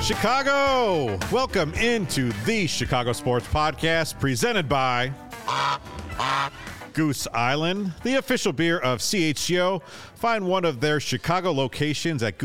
Chicago! Welcome into the Chicago Sports Podcast presented by Goose Island, the official beer of CHGO. Find one of their Chicago locations at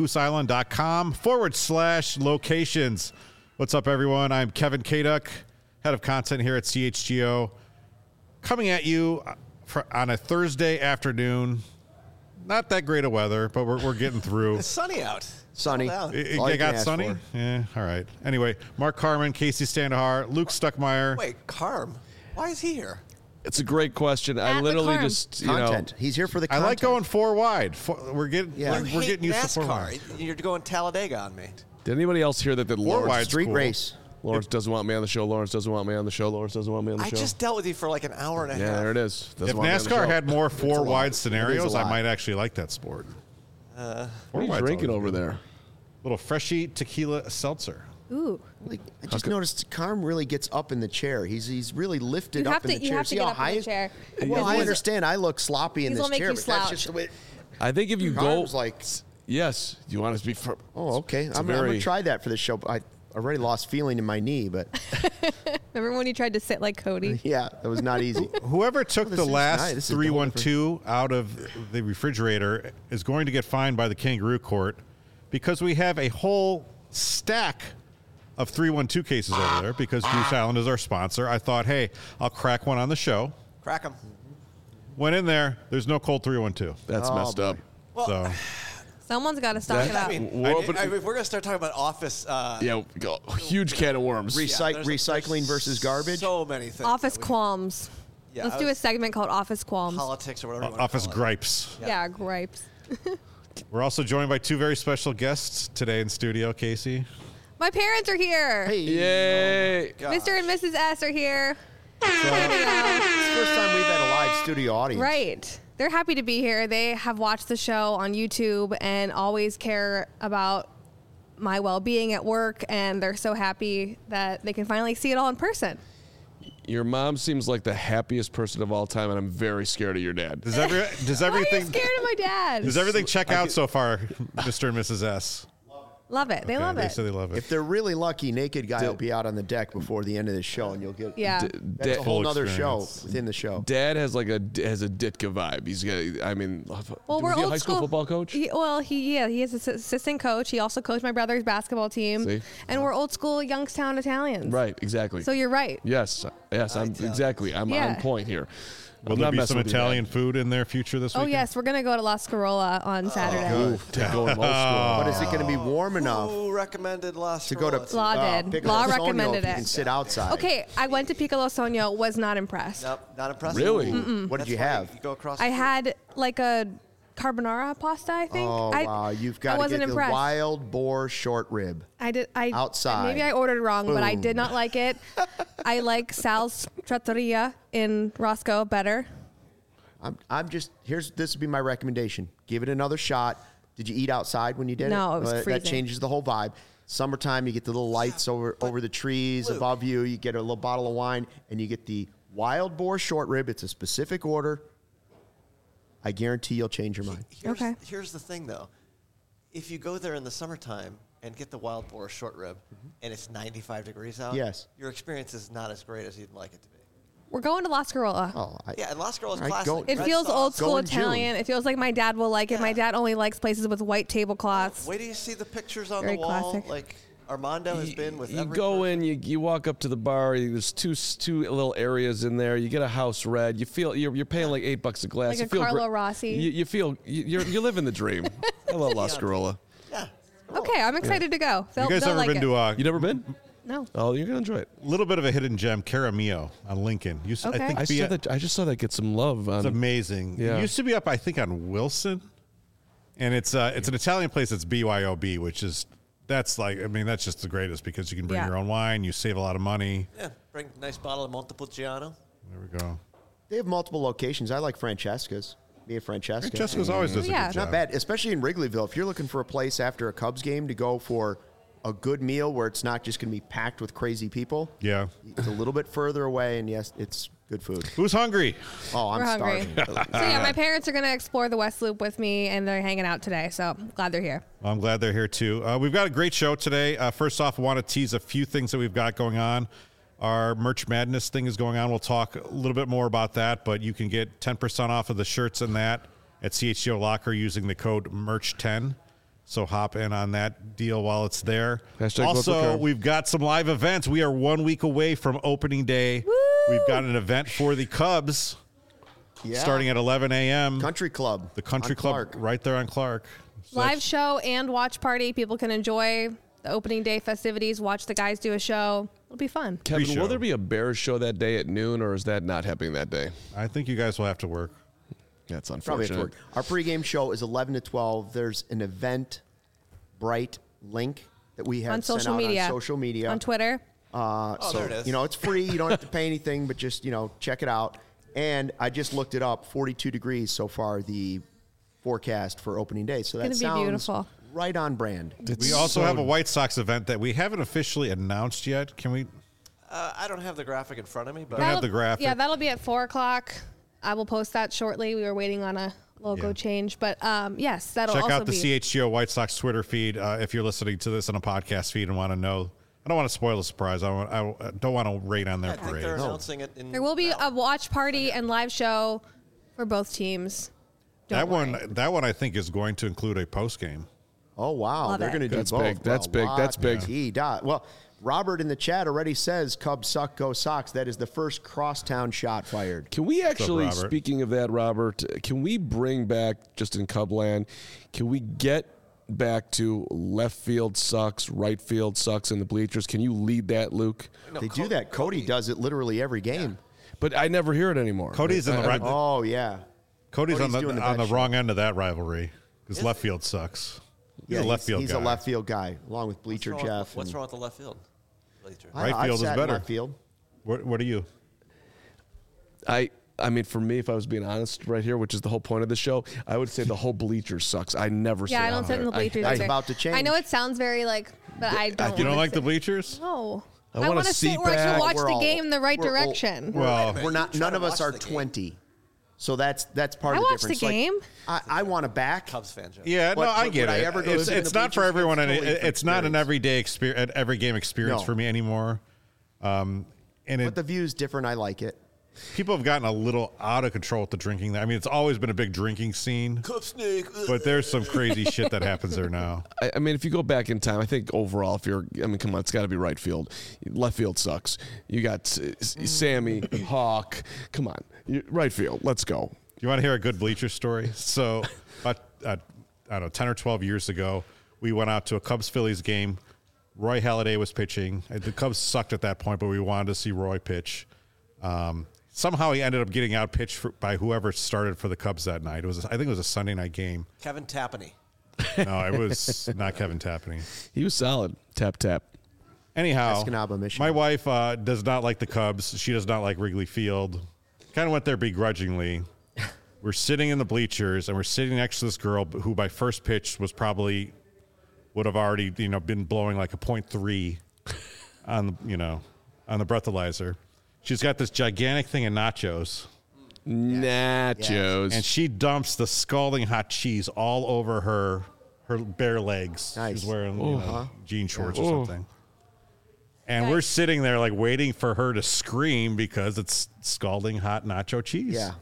gooseisland.com/locations. What's up, everyone? I'm Kevin Kaduk, head of content here at CHGO, coming at you on a Thursday afternoon. Not that great of weather, but we're getting through. It's sunny out. Sunny. It got sunny? For. Yeah, all right. Anyway, Mark Carman, Casey Standahar, Luke Stuckmeyer. Wait, Carm? Why is he here? It's a great question. I literally just, content. He's here for the content. I like going four wide. We're getting we're getting used to four wide. You're going Talladega on me. Did anybody else hear that the Lawrence street cool. race? Lawrence doesn't want me on the show. Lawrence doesn't want me on the show. Lawrence doesn't want me on the show. I just dealt with you for like an hour and a half. Yeah, there it is. If NASCAR had more four wide scenarios, I might actually like that sport. What are you drinking over there? Little freshy tequila seltzer. Ooh. I just noticed Carm really gets up in the chair. He's really lifted up in the chair. You have to get up in the chair. Well, I understand I look sloppy in this chair, but that's just the way. I think if you Carm's like, yes, you want us to be. Oh, okay. I'm going to try that for the show. I already lost feeling in my knee, but. Remember when you tried to sit like Cody? Yeah, that was not easy. Whoever took the last 312 out of the refrigerator is going to get fined by the Kangaroo Court because we have a whole stack of 312 cases over there because Goose Island is our sponsor. I thought, hey, I'll crack one on the show. Crack them. Went in there. There's no cold 312. That's messed up. Well, so. Someone's got to stock it up. I mean, if we're going to start talking about office... huge can of worms. Recycling versus garbage? So many things. Office qualms. Yeah, Let's do a segment called Office Qualms. Politics or whatever. Office gripes. Yeah, gripes. We're also joined by two very special guests today in studio, Casey. My parents are here. Hey. Yay. Mr. and Mrs. S are here. It's the first time we've had a live studio audience. Right. They're happy to be here. They have watched the show on YouTube and always care about my well-being at work, and they're so happy that they can finally see it all in person. Your mom seems like the happiest person of all time, and I'm very scared of your dad. Does everything? Why are you scared of my dad? Does everything check out so far, Mr. and Mrs. S? Love it. They love it. They say they love it. If they're really lucky, Naked Guy will be out on the deck before the end of the show, and you'll get that's a whole other show within the show. Dad has a Ditka vibe. He's got. I mean, well, we're was he a old high school football coach? He is an assistant coach. He also coached my brother's basketball team. See? And we're old school Youngstown Italians. Right. Exactly. So you're right. Yes. I'm on point here. Will there be some Italian food in their future this week? Oh, yes. We're going to go to La Scarola on Saturday. But is it going to be warm enough? Who recommended La Scarola? To go to Law did. Law recommended it. You can sit outside. Okay, I went to Piccolo Sogno, was not impressed. Nope, not impressed. Really? What did you have? You go across I had like a carbonara pasta, I think. Oh, wow. You've got to get the wild boar short rib. Outside. Maybe I ordered wrong, but I did not like it. I like Sal's Trattoria in Roscoe better. This would be my recommendation. Give it another shot. Did you eat outside when you did it? No, it was freezing. That changes the whole vibe. Summertime, you get the little lights over the trees above you. You get a little bottle of wine, and you get the wild boar short rib. It's a specific order. I guarantee you'll change your mind. Here's the thing, though. If you go there in the summertime and get the wild boar short rib, and it's 95 degrees out, your experience is not as great as you'd like it to be. We're going to La Scarola. And La Scarola's classic. It feels old school Italian. It feels like my dad will like it. My dad only likes places with white tablecloths. Wait till you see the pictures on Very the wall. classic. Like Armando has been with You go in, you walk up to the bar. There's two little areas in there. You get a house red. You feel you're paying like $8 a glass. Like a Carlo Rossi. You feel you're living the dream. I love La Scarola. Yeah. Okay, I'm excited to go. You guys ever been to? You never been? No. Oh, you're gonna enjoy it. A little bit of a hidden gem, Caramillo on Lincoln. Okay. I just saw that get some love. It's amazing. Yeah. It used to be up, I think, on Wilson, and it's an Italian place that's BYOB, which is that's just the greatest because you can bring your own wine, you save a lot of money. Yeah, bring a nice bottle of Montepulciano. There we go. They have multiple locations. I like Francesca's. Francesca. Francesca's always does a good job. Not bad, especially in Wrigleyville. If you're looking for a place after a Cubs game to go for a good meal where it's not just going to be packed with crazy people. Yeah. It's a little bit further away, and yes, it's Good food. Who's hungry? Oh, I'm starving. So yeah, my parents are going to explore the West Loop with me, and they're hanging out today. So I'm glad they're here. Well, I'm glad they're here too. We've got a great show today. First off, I want to tease a few things that we've got going on. Our Merch Madness thing is going on. We'll talk a little bit more about that, but you can get 10% off of the shirts and that at CHGO Locker using the code MERCH10. So hop in on that deal while it's there. Also, we've got some live events. We are 1 week away from opening day. Woo! We've got an event for the Cubs starting at 11 a.m. Country Club. The Country Club Clark. right there on Clark. So Live show and watch party. People can enjoy the opening day festivities, watch the guys do a show. It'll be fun. Kevin, Pre-show. will there be a Bears show that day at noon, or is that not happening that day? I think you guys will have to work. That's Probably have to unfortunate. work. Our pregame show is 11 to 12. There's an Eventbrite link that we have On sent social out media. on social media. On Twitter. So, there it is. it's free. You don't have to pay anything, but just, check it out. And I just looked it up. 42 degrees so far, the forecast for opening day. So that Gonna be sounds beautiful. right on brand. We also have a White Sox event that we haven't officially announced yet. Can we? I don't have the graphic in front of me, but Don't have the graphic. Yeah, that'll be at 4 o'clock. I will post that shortly. We were waiting on a logo change, but yes, that'll Check also out the be. CHGO White Sox Twitter feed if you're listening to this on a podcast feed and want to know. I don't want to spoil the surprise. I don't want to rate on their I think parade. they're announcing it in There will be a watch party and live show for both teams. That Don't one, worry. I think, is going to include a post game. Oh, wow. Love They're it. going to do That's both. big. That's big. That's big. Well, Robert in the chat already says Cubs suck, go Sox. That is the first crosstown shot fired. Can we actually, Robert? speaking of that, Robert, can we bring back, just in Cubland, can we get back to left field sucks, right field sucks in the bleachers? Can you lead that, Luke? They do that. Cody does it literally every game. But I never hear it anymore. Cody's in the right. Oh, yeah. Cody's on doing the the on the best wrong end of that rivalry because left field sucks. He's a left field he's guy. a left field guy, along with Bleacher Jeff. What's wrong with the left field? Bleacher? Right I've field is sat in better. Left field. What are you? I mean, for me, if I was being honest right here, which is the whole point of the show, I would say the whole bleacher sucks. I never sit Yeah, I don't on sit in the there. bleachers It's either. about to change. I know it sounds very but I don't. You don't wanna like the sit- bleachers? No. I I want want a to sit seat where I back. can watch We're the all- game the right we're all- direction. Well, We're not. You try None to of us watch are the game. 20, so that's part I of the watch the difference. game. I want to back. Cubs fan, Joe. Yeah, But- no, I but get would I it. ever go sit in It's the not for bleachers? everyone, It's and totally different it's not an experience. every game experience No. for me anymore. And But the view's different. I like it. people have gotten a little out of control with the drinking. I mean, it's always been a big drinking scene, Cub snake. but there's some crazy shit that happens there now. I mean, if you go back in time, I think overall, come on, it's got to be right field. Left field sucks. You got Sammy, Hawk. Come on, right field. Let's go. You want to hear a good bleacher story? So, about, I don't know, 10 or 12 years ago, we went out to a Cubs-Phillies game. Roy Halladay was pitching. The Cubs sucked at that point, but we wanted to see Roy pitch. Somehow he ended up getting out pitched by whoever started for the Cubs that night. I think it was a Sunday night game. Kevin Tapani. No, it was not Kevin Tapani. He was solid. Tap tap. Anyhow, Escanaba, Michigan. my wife does not like the Cubs. She does not like Wrigley Field. Kind of went there begrudgingly. We're sitting in the bleachers, and we're sitting next to this girl who, by first pitch, would have already been blowing like a .3 on the breathalyzer. She's got this gigantic thing of nachos, Nachos. and she dumps the scalding hot cheese all over her bare legs. Nice. She's wearing jean shorts or something. And we're sitting there like waiting for her to scream because it's scalding hot nacho cheese. Yeah.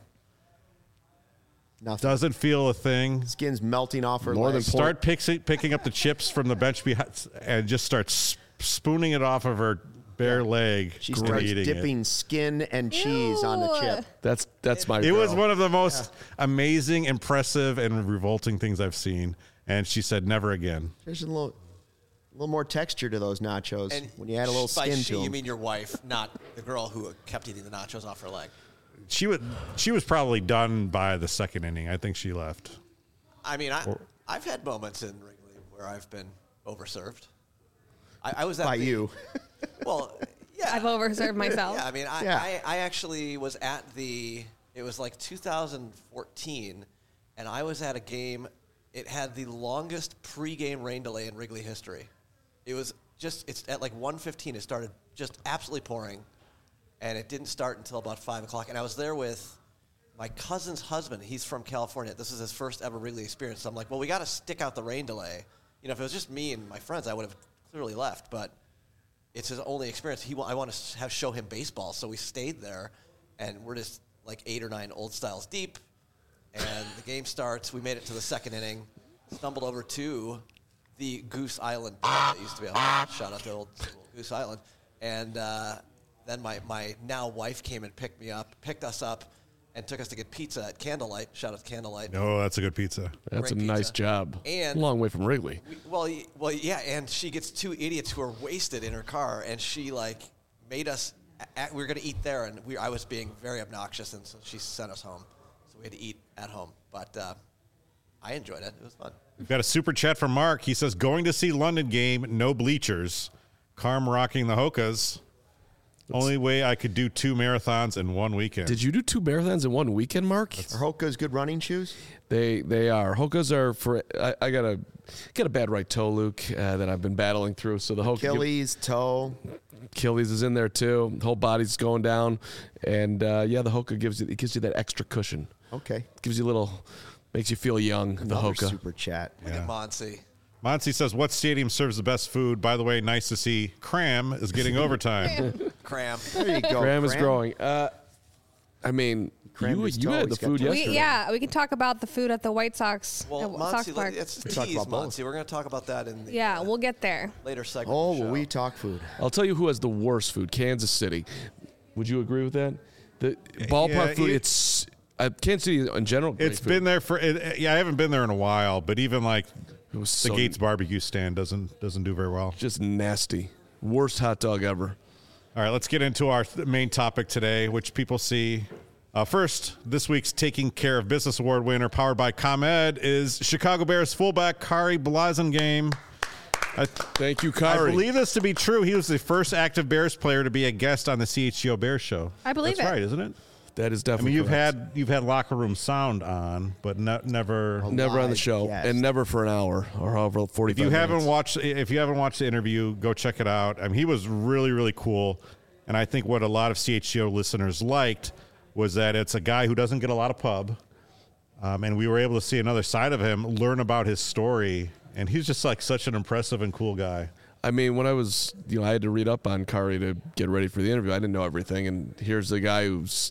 Nothing. Doesn't feel a thing. Skin's melting off her More than legs. Start picking up the chips from the bench behind and just start spooning it off of her bare leg. She and starts eating dipping skin and cheese on the Ew. chip. That's my. It was girl. one of the most amazing, impressive, and revolting things I've seen. And she said, "Never again." There's a little more texture to those nachos when you add a little by skin she, to them. you mean your wife, not the girl who kept eating the nachos off her leg. She was probably done by the second inning. I think she left. I mean, I've had moments in Wrigley where I've been overserved. I was at By the- you. Well, yeah. I've overserved myself. Yeah, I mean, I actually was at it was like 2014, and I was at a game. It had the longest pregame rain delay in Wrigley history. It was it's at like 1:15. It started just absolutely pouring. and it didn't start until about 5 o'clock. And I was there with my cousin's husband. He's from California. This is his first ever Wrigley experience. So I'm like, well, we got to stick out the rain delay. You know, if it was just me and my friends, I would have clearly left. But it's his only experience. I want to show him baseball. So we stayed there, and we're just like 8 or 9 old styles deep. And the game starts. We made it to the second inning. Stumbled over to the Goose Island that used to be a shout out to old Goose Island. And then my now wife came and picked us up, and took us to get pizza at Candlelight. Shout out to Candlelight. Oh, that's a good pizza. That's a nice job. And a long way from Wrigley. Well, yeah. And she gets 2 idiots who are wasted in her car, and she made us. We were going to eat there, and I was being very obnoxious, and so she sent us home. So we had to eat at home, but I enjoyed it. It was fun. We've got a super chat from Mark. He says, going to see London game, no bleachers. Carm rocking the Hokas. Only way I could do 2 marathons in one weekend. Did you do 2 marathons in one weekend, Mark? Are Hokas good running shoes? They are. Hokas are for. I got a bad right toe, Luke, that I've been battling through. So the Achilles toe. Achilles is in there too. The whole body's going down, and the Hoka gives you that extra cushion. Okay. Gives you makes you feel young. The Hoka. Super chat. Look at Monsi. Monsi says, what stadium serves the best food? By the way, nice to see Cram is getting overtime. Cram. There you go. Cram is growing. I mean, you had the food yesterday. We can talk about the food at the White Sox. Well, Sox Park. It's a tease, Monsi. We're going to talk about that in the we'll get there. later segment. Oh, of the show. will we talk food? I'll tell you who has the worst food. Kansas City. Would you agree with that? The ballpark food. It's Kansas City in general. It's been there for. I haven't been there in a while, but even it was the Gates barbecue stand doesn't do very well. Just nasty. Worst hot dog ever. All right, let's get into our main topic today, which people see. First, this week's Taking Care of Business Award winner, powered by ComEd, is Chicago Bears fullback Khari Blasingame. Thank you, Khari. I believe this to be true. He was the first active Bears player to be a guest on the CHGO Bears show. I believe That's it. right, isn't it? That is definitely. You've had locker room sound on, but never on the show, and never for an hour or however 45 If you minutes. haven't watched the interview, go check it out. I mean, he was really, really cool, and I think what a lot of CHGO listeners liked was that it's a guy who doesn't get a lot of pub, and we were able to see another side of him, learn about his story, and he's just such an impressive and cool guy. I mean, when I was, I had to read up on Khari to get ready for the interview. I didn't know everything, and here's the guy who's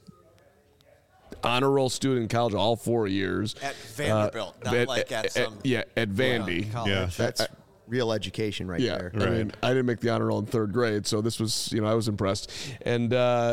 honor roll student in college all 4 years at Vanderbilt, not at some at Vandy. Yeah, that's real education right there. Right. I mean, I didn't make the honor roll in 3rd grade, so this was I was impressed, and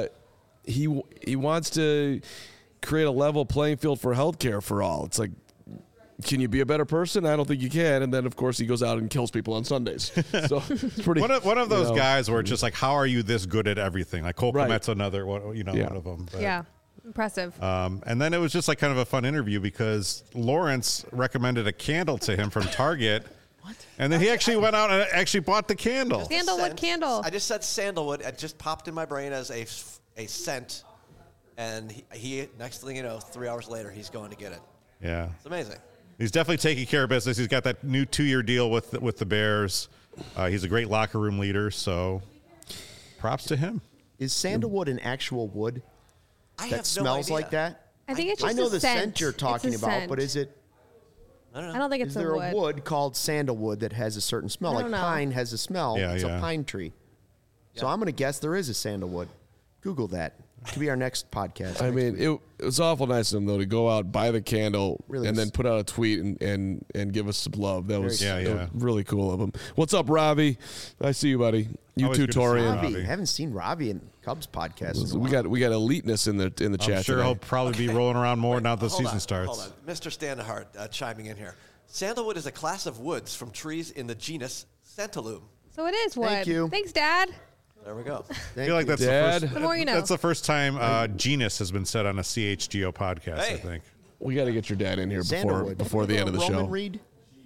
he wants to create a level playing field for healthcare for all. It's like, can you be a better person? I don't think you can. And then, of course, he goes out and kills people on Sundays. So it's pretty. One of those guys where it's just how are you this good at everything? Like Cole Kmet's another one, one of them. But. Impressive. And then it was just kind of a fun interview because Lawrence recommended a candle to him from Target. What? And then he actually went out and actually bought the candle. Sandalwood candle. I just said sandalwood. It just popped in my brain as a scent. And he next thing you know, 3 hours later, he's going to get it. Yeah. It's amazing. He's definitely taking care of business. He's got that new 2-year deal with the Bears. He's a great locker room leader, so props to him. Is sandalwood an actual wood that smells like that? I think it's just I know a the scent you're talking about, but is it? I don't think it's is there a wood called sandalwood that has a certain smell? Like pine has a smell. Yeah, it's a pine tree. So I'm going to guess there is a sandalwood. Google that. It could be our next podcast. I mean, it was awful nice of him, though, to go out, buy the candle, and then put out a tweet and give us some love. That was really cool of him. What's up, Ravi? I see you, buddy. You too, Torian. I haven't seen Ravi in Cubs podcast. We got eliteness in the chat. I'm sure today. he'll probably be rolling around more now that the season starts. Hold on. Mr. Standahart chiming in here. Sandalwood is a class of woods from trees in the genus Santalum. So it is wood. Thank you. Thanks, Dad. There we go. I feel like that's the more you know. That's the first time genus has been said on a CHGO podcast, I think. We got to get your dad in here before the end of the show. Roman Reed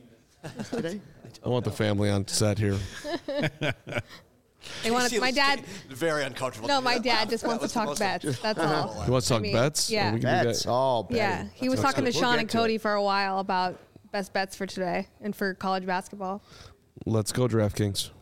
today? I want the family on set here. They want my dad. Very uncomfortable. No, my dad just wants to talk bets. That's all. He wants to talk bets? Yeah. Bets. Oh, betting. Yeah. He was talking to Sean and Cody for a while about best bets for today and for college basketball. Let's go, DraftKings.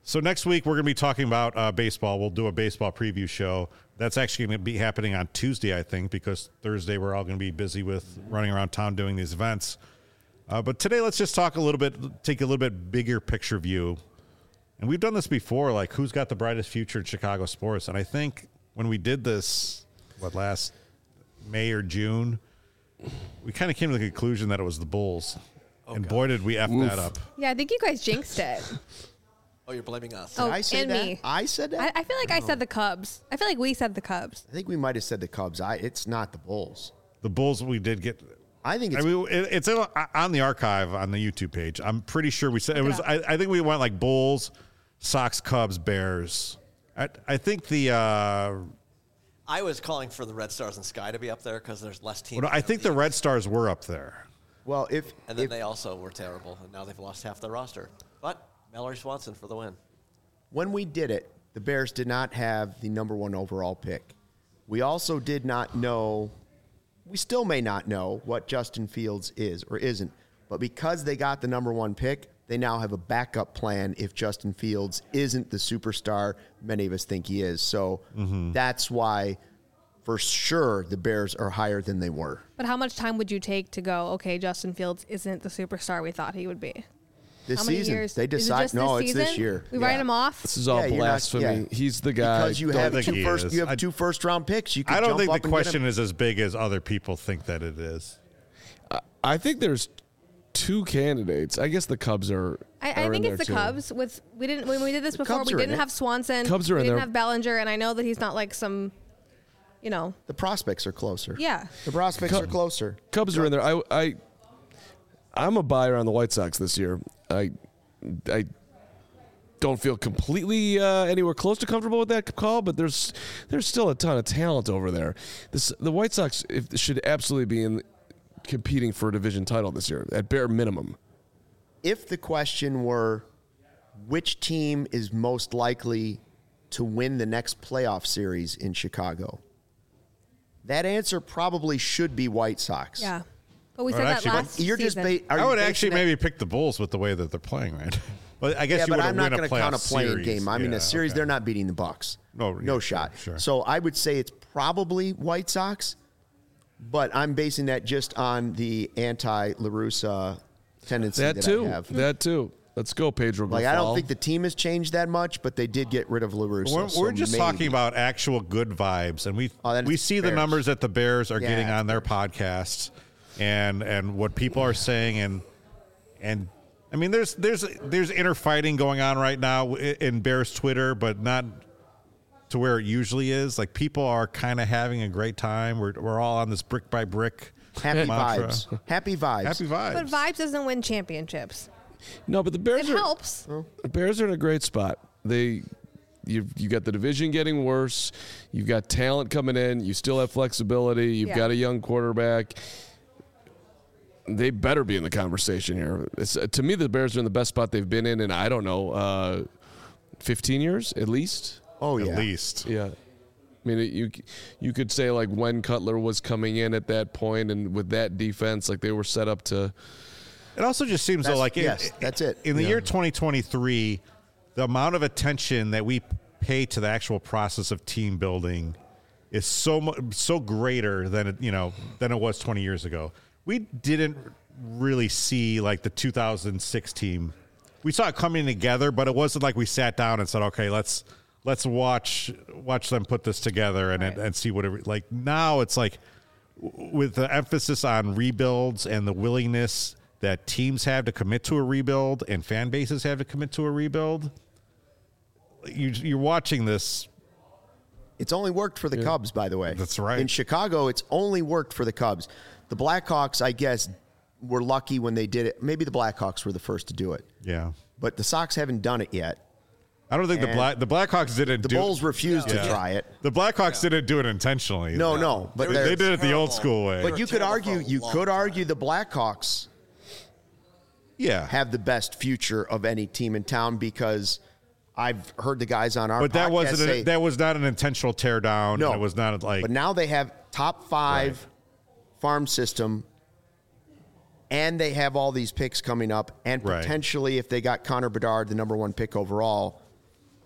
So next week, we're going to be talking about baseball. We'll do a baseball preview show. That's actually going to be happening on Tuesday, I think, because Thursday we're all going to be busy with running around town doing these events. But today, let's just talk a little bit, take a little bit bigger picture view. And we've done this before, like who's got the brightest future in Chicago sports. And I think when we did this, last May or June, we kind of came to the conclusion that it was the Bulls. And boy, did we F that up. Yeah, I think you guys jinxed it. Oh, you're blaming us. Oh, Did I say and that? me. I said that? I feel like I said the Cubs. I feel like we said the Cubs. I think we might have said the Cubs. It's not the Bulls. The Bulls, we did get. I think it's. It's on the archive on the YouTube page. I'm pretty sure we said it was. I think we went like Bulls, Sox, Cubs, Bears. I think the. I was calling for the Red Stars and Sky to be up there because there's less teams. Well, I think the Red Stars were up there. Well, and then they also were terrible, and now they've lost half their roster. But Mallory Swanson for the win. When we did it, the Bears did not have the number 1 overall pick. We also did not know, we still may not know what Justin Fields is or isn't. But because they got the number 1 pick, they now have a backup plan if Justin Fields isn't the superstar many of us think he is. So that's why, for sure, the Bears are higher than they were. But how much time would you take to go, okay, Justin Fields isn't the superstar we thought he would be? This How many season, years? they Is it decide. just No, this it's this season? year. We write him off? This is all Yeah, you're not- blasphemy. yeah. He's the guy. Because you have think he is. you have 2 first-round picks. You can I don't jump think up the and get question him. is as big as other people think that it is. I think there's 2 candidates. I guess the Cubs are. I are think in it's the there, too. Cubs. When we did this before, Cubs we are in didn't it. have Swanson. Cubs are we in didn't there. have Bellinger, and I know that he's not like some, The prospects are closer. Yeah. The prospects are closer. Cubs are in there. I'm a buyer on the White Sox this year. I don't feel completely anywhere close to comfortable with that call, but there's still a ton of talent over there. The White Sox should absolutely be competing for a division title this year at bare minimum. If the question were which team is most likely to win the next playoff series in Chicago, that answer probably should be White Sox. Yeah. But we Well, said that actually, last You're just season. are I you would basing actually that- maybe pick the Bulls with the way that they're playing right. But I guess Yeah, you but would I'm not win going a to count a playoff playing series. game. I mean, Yeah, a series, okay. they're not beating the Bucks. No, No yeah, shot. sure. So I would say it's probably White Sox, but I'm basing that just on the anti-La Russa tendency that I have. That too. Let's go, Pedro. Like, I don't Grifol. think the team has changed that much, but they did get rid of La Russa. We're just talking about actual good vibes, and then we it's see the Bears. numbers that the Bears are Yeah, getting it's on their podcasts, and what people are saying, and I mean, there's inner fighting going on right now in Bears Twitter, but not to where it usually is. Like, people are kind of having a great time. We're all on this brick by brick happy mantra. vibes. Happy vibes. Happy vibes. But vibes doesn't win championships. No, but the Bears It are, helps. The Bears are in a great spot. You got the division getting worse. You've got talent coming in. You still have flexibility. You've Yeah. got a young quarterback. They better be in the conversation here. To me, the Bears are in the best spot they've been in I don't know, 15 years at least. Oh, yeah. At least. Yeah. I mean, you could say like when Cutler was coming in at that point, and with that defense, like they were set up to. It also just seems though like that's it. In the year 2023, the amount of attention that we pay to the actual process of team building is so greater than it was 20 years ago. We didn't really see like the 2006 team. We saw it coming together, but it wasn't like we sat down and said, "Okay, let's watch them put this together and see what it like." Now it's like with the emphasis on rebuilds and the willingness that teams have to commit to a rebuild and fan bases have to commit to a rebuild. You're watching this. It's only worked for the Cubs, by the way. That's right. In Chicago, it's only worked for the Cubs. The Blackhawks, I guess, were lucky when they did it. Maybe the Blackhawks were the first to do it. Yeah. But the Sox haven't done it yet. I don't think the Blackhawks didn't The do Bulls refused to try it. The Blackhawks didn't do it intentionally. No. But They did it the old terrible. school way. But you could terrible for argue a you long could time. argue the Blackhawks yeah. have the best future of any team in town because I've heard the guys on our But that podcast say, that was not an intentional tear down. No. It was not like but now they have top 5 Right. farm system, and they have all these picks coming up, and Right. potentially if they got Connor Bedard, the number 1 pick overall,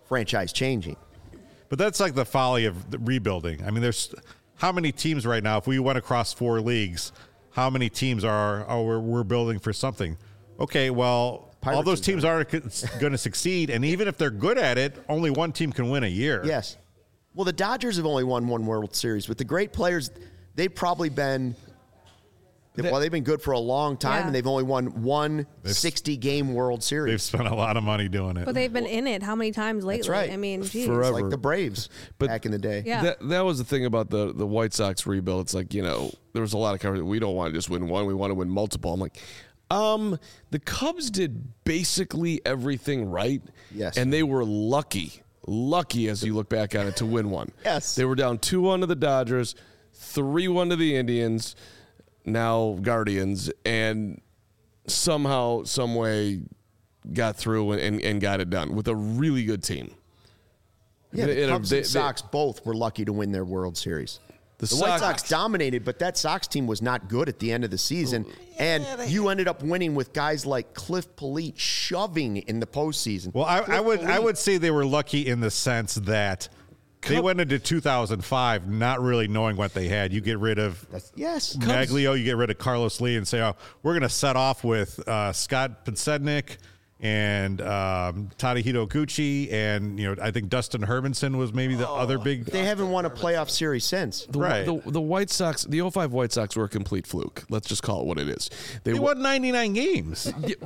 franchise changing. But that's like the folly of the rebuilding. I mean, there's how many teams right now? If we went across 4 leagues, how many teams we're building for something? Okay, well, all those teams aren't going to succeed, and even if they're good at it, only one team can win a year. Yes. Well, the Dodgers have only won one World Series. With the great players, they've probably been they've been good for a long time, and they've only won one 60-game World Series. They've spent a lot of money doing it. But they've been in it how many times lately? That's right. I mean, geez. Forever. Like the Braves back in the day. Yeah. That was the thing about the White Sox rebuild. It's like, there was a lot of coverage. We don't want to just win one. We want to win multiple. I'm like, the Cubs did basically everything right. Yes. And they were lucky as you look back on it to win one. Yes. They were down 2-1 to the Dodgers, 3-1 to the Indians, now Guardians, and somehow, some way got through and got it done with a really good team. Yeah, the Cubs and Sox both were lucky to win their World Series. The White Sox dominated, but that Sox team was not good at the end of the season. And you ended up winning with guys like Cliff Polite shoving in the postseason. Well, I would say they were lucky in the sense that they went into 2005 not really knowing what they had. You get rid of Maglio, you get rid of Carlos Lee, and say, "Oh, we're going to set off with Scott Podsednik and Tadahito Gucci, and I think Dustin Hermanson was maybe the other big." They haven't won a playoff series since. The White Sox, the 05 White Sox were a complete fluke. Let's just call it what it is. They won 99 games.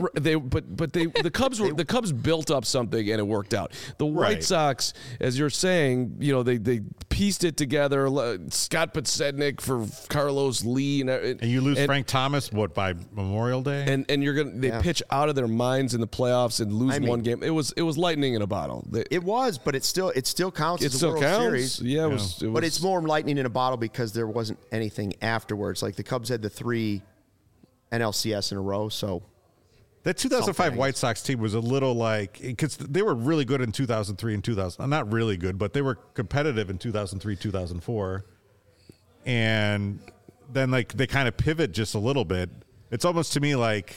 The Cubs built up something and it worked out. The White Sox, as you're saying, they pieced it together. Scott Podsednik for Carlos Lee, and you lose Frank Thomas by Memorial Day, and they pitch out of their minds in the playoffs and lose one game. It was lightning in a bottle. It was, but it still counts as a World Series. Yeah, but it's more lightning in a bottle because there wasn't anything afterwards. Like the Cubs had the 3 NLCS in a row, so that 2005 White Sox team was a little because they were really good in 2003 and 2000. Not really good, but they were competitive in 2003, 2004, and then they kind of pivot just a little bit. It's almost to me like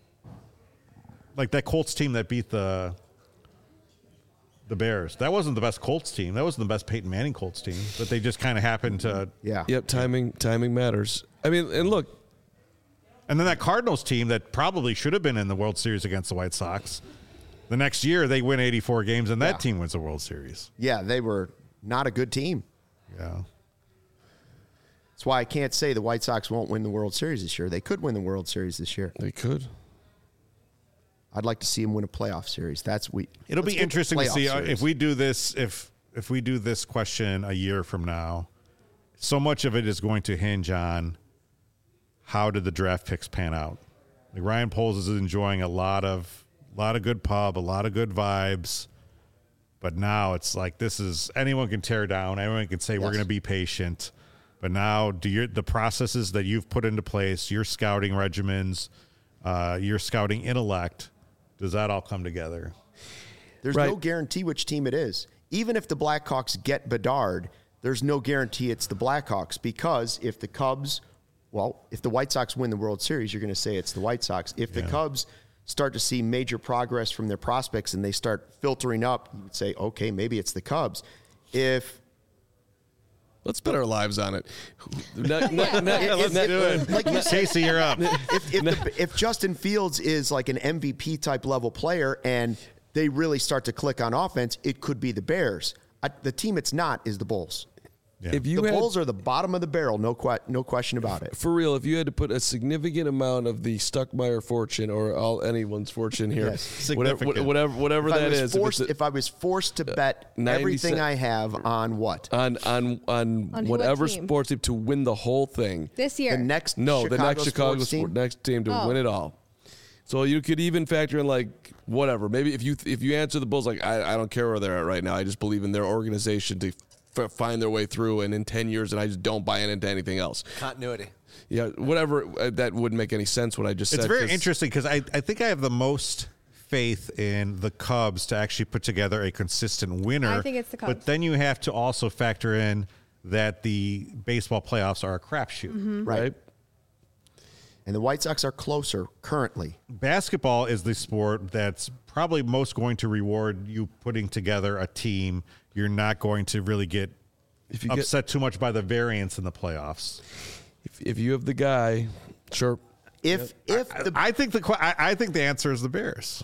that Colts team that beat the Bears. That wasn't the best Colts team. That wasn't the best Peyton Manning Colts team. But they just kind of happened to. Yeah. Yep. Timing matters. I mean, and look. And then that Cardinals team that probably should have been in the World Series against the White Sox. The next year they win 84 games and that team wins the World Series. Yeah, they were not a good team. Yeah. That's why I can't say the White Sox won't win the World Series this year. They could win the World Series this year. They could. I'd like to see them win a playoff series. It'll be interesting to see if we do this. If we do this question a year from now, so much of it is going to hinge on how did the draft picks pan out. Like Ryan Poles is enjoying a lot of good pub, a lot of good vibes, but now it's like anyone can tear down. Anyone can say we're going to be patient, but now the processes that you've put into place, your scouting regimens, your scouting intellect. Does that all come together? There's no guarantee which team it is. Even if the Blackhawks get Bedard, there's no guarantee it's the Blackhawks because if the White Sox win the World Series, you're going to say it's the White Sox. If the Cubs start to see major progress from their prospects and they start filtering up, you would say, okay, maybe it's the Cubs. Let's bet our lives on it. Let's do it. Like you say, Casey, you're up. If Justin Fields is like an MVP type level player and they really start to click on offense, it could be the Bears. The team it's not is the Bulls. Yeah. The Bulls are the bottom of the barrel, no question about it. For real, if you had to put a significant amount of the Stuckmeyer fortune or anyone's fortune here, whatever that is. If I was forced to bet everything I have on what? On whatever sports team to win the whole thing. This year. The next Chicago team to win it all. So you could even factor in whatever. Maybe if you answer the Bulls I don't care where they're at right now. I just believe in their organization to find their way through, and in 10 years, and I just don't buy into anything else. Continuity. Yeah, whatever. That wouldn't make any sense what I just said. It's very interesting because I think I have the most faith in the Cubs to actually put together a consistent winner. I think it's the Cubs. But then you have to also factor in that the baseball playoffs are a crapshoot. Mm-hmm. Right. And the White Sox are closer currently. Basketball is the sport that's probably most going to reward you putting together a team. You're not going to really get upset too much by the variance in the playoffs. If you have the guy, sure. I think the answer is the Bears.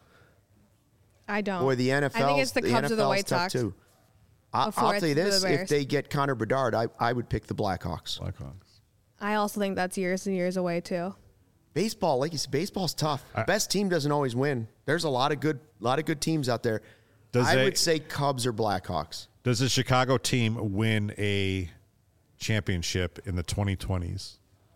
I don't. Or the NFL. I think it's the Cubs or the White Sox. Too. I'll tell you this: if they get Connor Bedard, I would pick the Blackhawks. I also think that's years and years away too. Baseball, like you said, baseball's tough. The best team doesn't always win. There's a lot of good teams out there. I would say Cubs or Blackhawks. Does the Chicago team win a championship in the 2020s?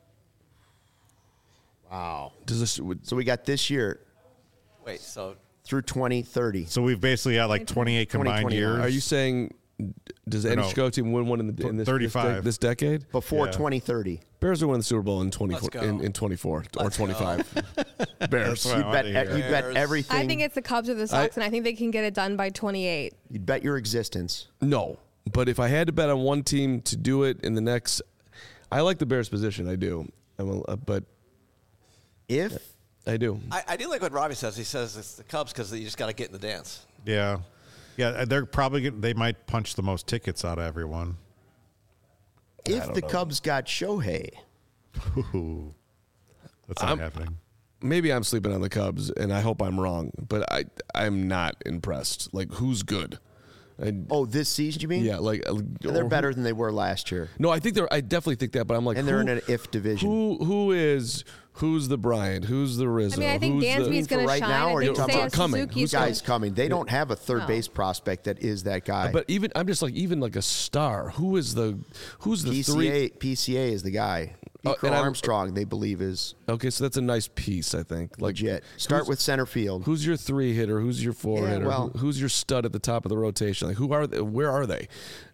Wow. So we got this year. Wait, so through 2030. So we've basically got like 28 combined years. Are you saying does any Chicago team win one in this 35 this decade? Before 2030. Bears will win the Super Bowl in 24 or 25. Bears. You'd bet everything. I think it's the Cubs or the Sox, and I think they can get it done by 28. You'd bet your existence. No, but if I had to bet on one team to do it in the next, I like the Bears' position. I do, but if I do, I do like what Robbie says. He says it's the Cubs because you just got to get in the dance. Yeah. Yeah, they might punch the most tickets out of everyone. If the Cubs got Shohei. Ooh, that's not happening. Maybe I'm sleeping on the Cubs, and I hope I'm wrong, but I'm not impressed. Like, who's good? This season, you mean? Yeah, they're better than they were last year. No, I definitely think that, but I'm like, and they're in an if division. Who's the Bryant? Who's the Rizzo? I mean, I think Dansby's going to shine. Now, I think Seiya Suzuki's guy's coming. They don't have a third base prospect that is that guy. But I'm just like a star. Who's the three? PCA is the guy. Armstrong, they believe is okay. So that's a nice piece, I think. Legit. Start with center field. Who's your 3 hitter? Who's your 4 hitter? Who's your stud at the top of the rotation? Like, who are they? Where are they?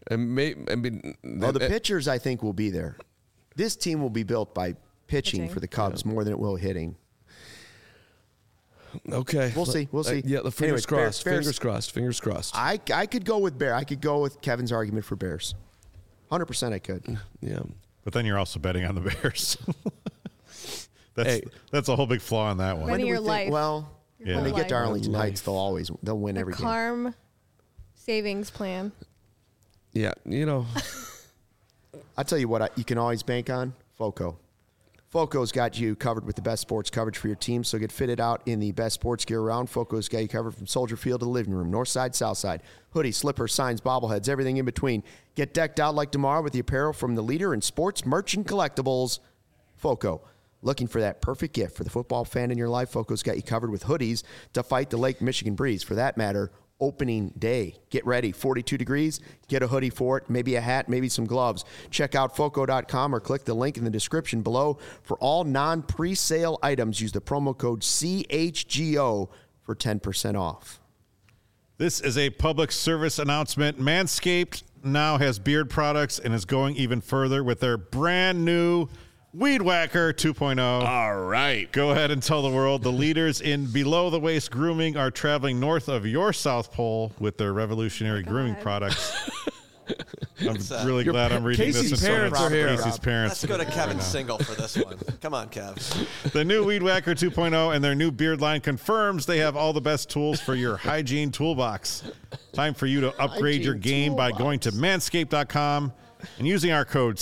The pitchers, I think, will be there. This team will be built by pitching for the Cubs more than it will hitting. Okay, we'll see. Yeah, the fingers crossed. Fingers crossed. I could go with Bear. I could go with Kevin's argument for Bears. 100% I could. Yeah. But then you're also betting on the Bears. That's a whole big flaw in that one. Betting your life. When they get to Arlington Heights, they'll win every game. Carm savings plan. Yeah, I'll tell you what you can always bank on, FOCO. FOCO's got you covered with the best sports coverage for your team, so get fitted out in the best sports gear around. FOCO's got you covered from Soldier Field to the living room, north side, south side, hoodies, slippers, signs, bobbleheads, everything in between. Get decked out like tomorrow with the apparel from the leader in sports merch and collectibles, FOCO. Looking for that perfect gift for the football fan in your life? FOCO's got you covered with hoodies to fight the Lake Michigan breeze. For that matter, opening day. Get ready. 42 degrees. Get a hoodie for it. Maybe a hat. Maybe some gloves. Check out FOCO.com or click the link in the description below. For all non-presale items, use the promo code CHGO for 10% off. This is a public service announcement. Manscaped now has beard products and is going even further with their brand new Weed Whacker 2.0. All right. Go ahead and tell the world the leaders in below-the-waist grooming are traveling north of your South Pole with their revolutionary grooming products. I'm really glad I'm reading Casey's this. Parents are here. Casey's parents. Let's go to Kevin Single for this one. Come on, Kev. The new Weed Whacker 2.0 and their new beard line confirms they have all the best tools for your hygiene toolbox. Time for you to upgrade your game by going to manscaped.com and using our code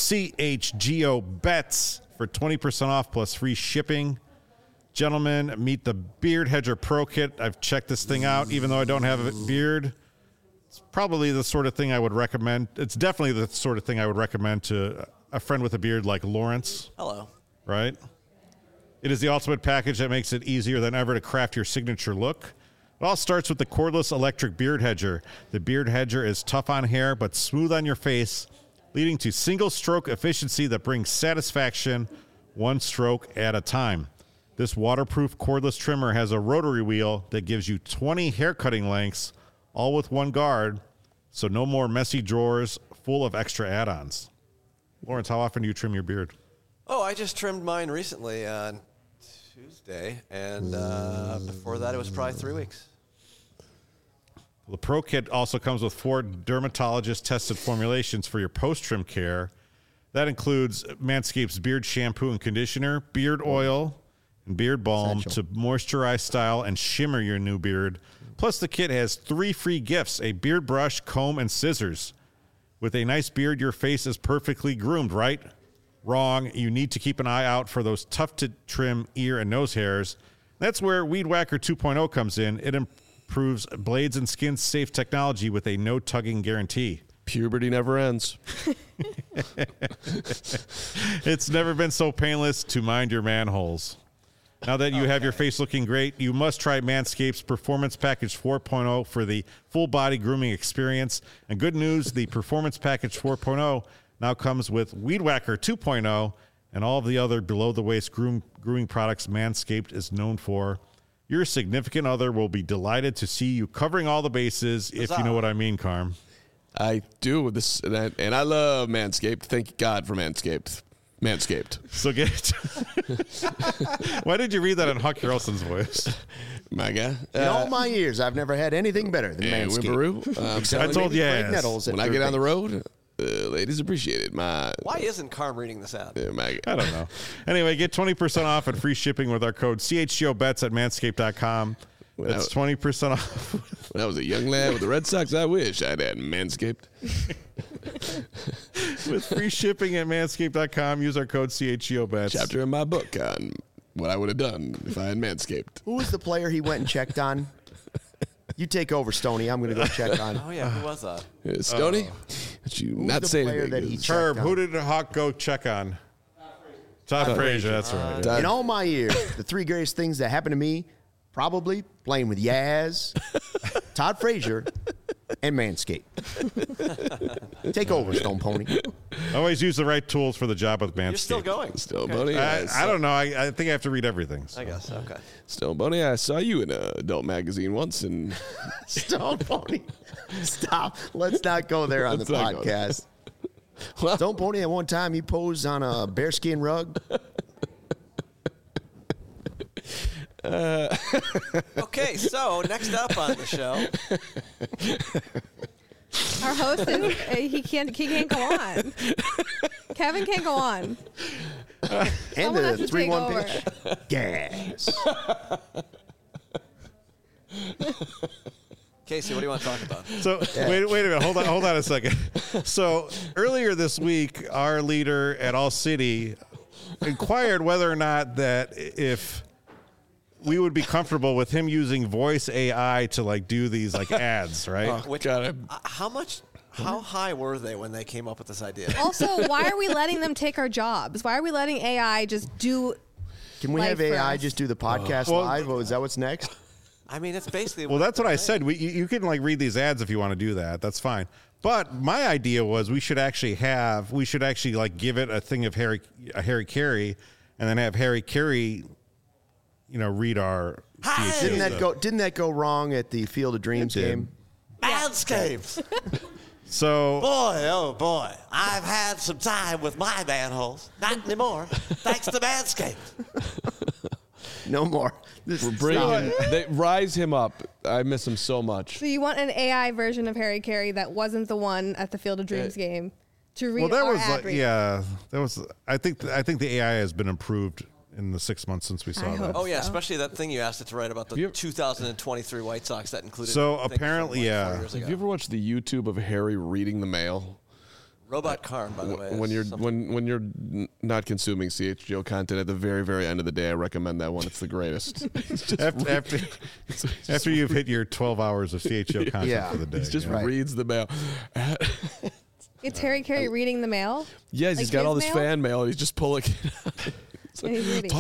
CHGOBETS for 20% off plus free shipping. Gentlemen, meet the Beard Hedger Pro Kit. I've checked this thing out, even though I don't have a beard. It's probably the sort of thing I would recommend. It's definitely the sort of thing I would recommend to a friend with a beard like Lawrence. Hello. Right? It is the ultimate package that makes it easier than ever to craft your signature look. It all starts with the cordless electric Beard Hedger. The Beard Hedger is tough on hair but smooth on your face, leading to single-stroke efficiency that brings satisfaction one stroke at a time. This waterproof cordless trimmer has a rotary wheel that gives you 20 hair cutting lengths, all with one guard, so no more messy drawers full of extra add-ons. Lawrence, how often do you trim your beard? Oh, I just trimmed mine recently on Tuesday, and before that it was probably 3 weeks. The Pro Kit also comes with 4 dermatologist-tested formulations for your post-trim care. That includes Manscaped's beard shampoo and conditioner, beard oil, and beard balm to moisturize, style, and shimmer your new beard. Plus, the kit has 3 free gifts, a beard brush, comb, and scissors. With a nice beard, your face is perfectly groomed, right? Wrong. You need to keep an eye out for those tough-to-trim ear and nose hairs. That's where Weed Whacker 2.0 comes in. It improves blades and skin-safe technology with a no-tugging guarantee. Puberty never ends. It's never been so painless to mind your manholes. Now that you have your face looking great, you must try Manscaped's Performance Package 4.0 for the full-body grooming experience. And good news, the Performance Package 4.0 now comes with Weed Whacker 2.0 and all of the other below-the-waist grooming products Manscaped is known for. Your significant other will be delighted to see you covering all the bases, if you know what I mean, Carm. I do. And I love Manscaped. Thank God for Manscaped. Manscaped. So get it. Why did you read that in Huck Harrelson's voice? My guy. In all my years, I've never had anything better than Manscaped. I told you. When I get on the road, ladies appreciate it. Why isn't Carm reading this ad? I don't know. Anyway, get 20% off and free shipping with our code CHGOBETS at manscaped.com. That's 20% off. When I was a young lad with the Red Sox, I wish I'd had Manscaped. With free shipping at manscaped.com, use our code CHGOBETS. Chapter in my book on what I would have done if I had Manscaped. Who was the player he went and checked on? You take over, Stoney. I'm going to go check on. Oh, yeah. Who was that? Stoney? You not say anything. That he Herb, who did Hawk go check on? Todd Frazier, that's right. In all my years, the 3 greatest things that happened to me, probably playing with Yaz, Todd Frazier, and Manscaped. Take over, Stone Pony. Always use the right tools for the job with Manscaped. You're still going. Stone Bunny. I don't know. I think I have to read everything. So. I guess. Okay. Stone Bunny, I saw you in an adult magazine once. And Stone Pony. Stop. Let's not go there on the podcast. Stone Pony, at one time, he posed on a bearskin rug. Okay, so next up on the show, our host is he can't go on. Kevin can't go on. And Someone has the to take 3-1 over. pitch. Gas. Casey, what do you want to talk about? So wait a minute. Hold on a second. So earlier this week, our leader at All City inquired whether or not that if we would be comfortable with him using voice AI to like do these like ads, right? How high were they when they came up with this idea? Also, why are we letting them take our jobs? Why are we letting AI just do? Can we have life for AI us? just do the podcast live? Is that what's next? I mean, it's basically. Well, that's what I said. You can like read these ads if you want to do that. That's fine. But my idea was we should actually like give it a thing of Harry Carey, and then have Harry Carey, read our. Didn't that go wrong at the Field of Dreams game? Manscaped. So Boy, oh boy, I've had some time with my manholes. Not anymore. Thanks to Manscaped. No more. They rise him up. I miss him so much. So you want an AI version of Harry Carey that wasn't the one at the Field of Dreams game to read our ad read? That was. I think the AI has been improved in the 6 months since we saw that. Oh yeah, especially that thing you asked it to write about the 2023 White Sox that included. So apparently, yeah. Have you ever watched the YouTube of Harry reading the mail? Robot Karn, by the way. When you're not consuming CHGO content at the very, very end of the day, I recommend that one. It's the greatest. After you've hit your 12 hours of CHGO content for the day. He just reads the mail. It's Harry Carey reading the mail? Yes, Like he's got all this his fan mail, and he's just pulling it out. And he's reading.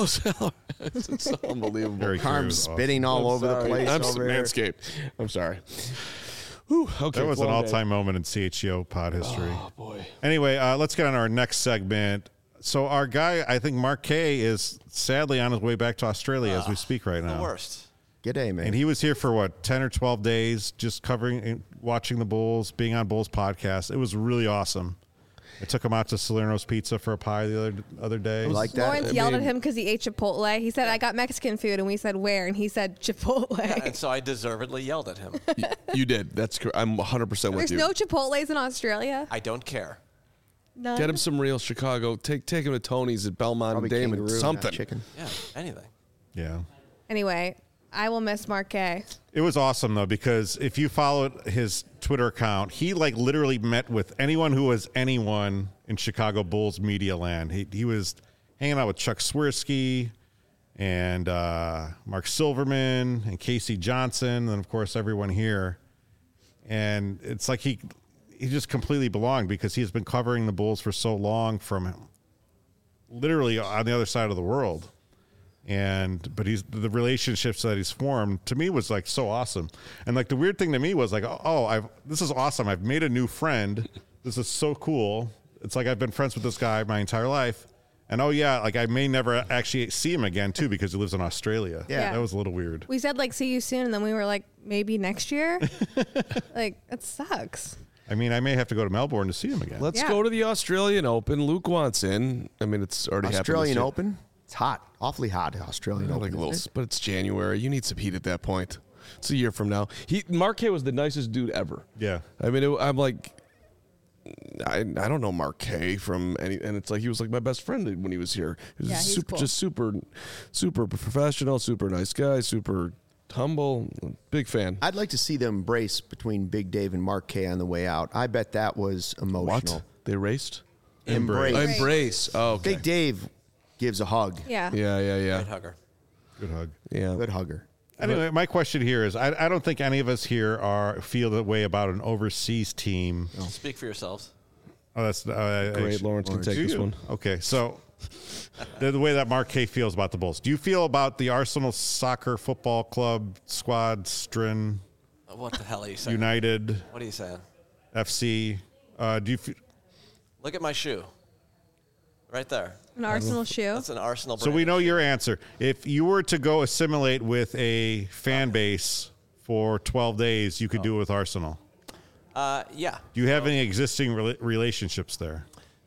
It's unbelievable. Very Carm spitting all over the place. I'm over here. Manscaped. I'm sorry. Whew, okay, that was an all-time moment in CHGO pod history. Oh, boy. Anyway, let's get on our next segment. So our guy, I think Mark Kay, is sadly on his way back to Australia as we speak right now. The worst. G'day, man. And he was here for 10 or 12 days, just covering and watching the Bulls, being on Bulls podcast. It was really awesome. I took him out to Salerno's Pizza for a pie the other day. Like that? Lawrence yelled at him because he ate Chipotle. He said, I got Mexican food. And we said, where? And he said, Chipotle. Yeah, and so I deservedly yelled at him. You did. That's I'm 100% with There's you. no Chipotles in Australia? I don't care. None? Get him some real Chicago. Take him to Tony's at Belmont Probably and Damon. kangaroo, Something. chicken. Yeah, anything. Yeah. Anyway, I will miss Marquet. It was awesome though, because if you followed his Twitter account, he like literally met with anyone who was anyone in Chicago Bulls media land. He was hanging out with Chuck Swirsky and Mark Silverman and Casey Johnson, and of course everyone here. And it's like he just completely belonged because he's been covering the Bulls for so long from literally on the other side of the world. But the relationships that he's formed to me was like so awesome. And like the weird thing to me was like, this is awesome. I've made a new friend. This is so cool. It's like I've been friends with this guy my entire life. And like I may never actually see him again too because he lives in Australia. Yeah. That was a little weird. We said like see you soon, and then we were like maybe next year. Like it sucks. I mean, I may have to go to Melbourne to see him again. Let's go to the Australian Open. Luke wants in. I mean, it's already Australian happened. Open? It's hot. Awfully hot, Australian Open. Like a little, but it's January. You need some heat at that point. It's a year from now. Marquet was the nicest dude ever. Yeah. I mean, I'm like, I don't know Marquet from any, and it's like he was like my best friend when he was here. He was he's cool. just super professional, super nice guy, super humble, big fan. I'd like to see them embrace between Big Dave and Marquet on the way out. I bet that was emotional. What? They raced? Embrace. Oh, okay. Big Dave gives a hug. Yeah. Yeah. Great hugger. Good hug. Yeah. Good hugger. Anyway, my question here is I don't think any of us here feel the way about an overseas team. Speak for yourselves. Oh, that's Great. Lawrence can take Do this you? one. Okay, so the way that Marquet feels about the Bulls. Do you feel about the Arsenal Soccer Football Club squad, Strin, What the hell are you saying? United, What are you saying? FC? Do you? Look at my shoe. Right there. An Arsenal shoe. That's an Arsenal So brand. we know your answer. If you were to go assimilate with a fan base for 12 days, you could do it with Arsenal. Yeah. Do you have any existing relationships there?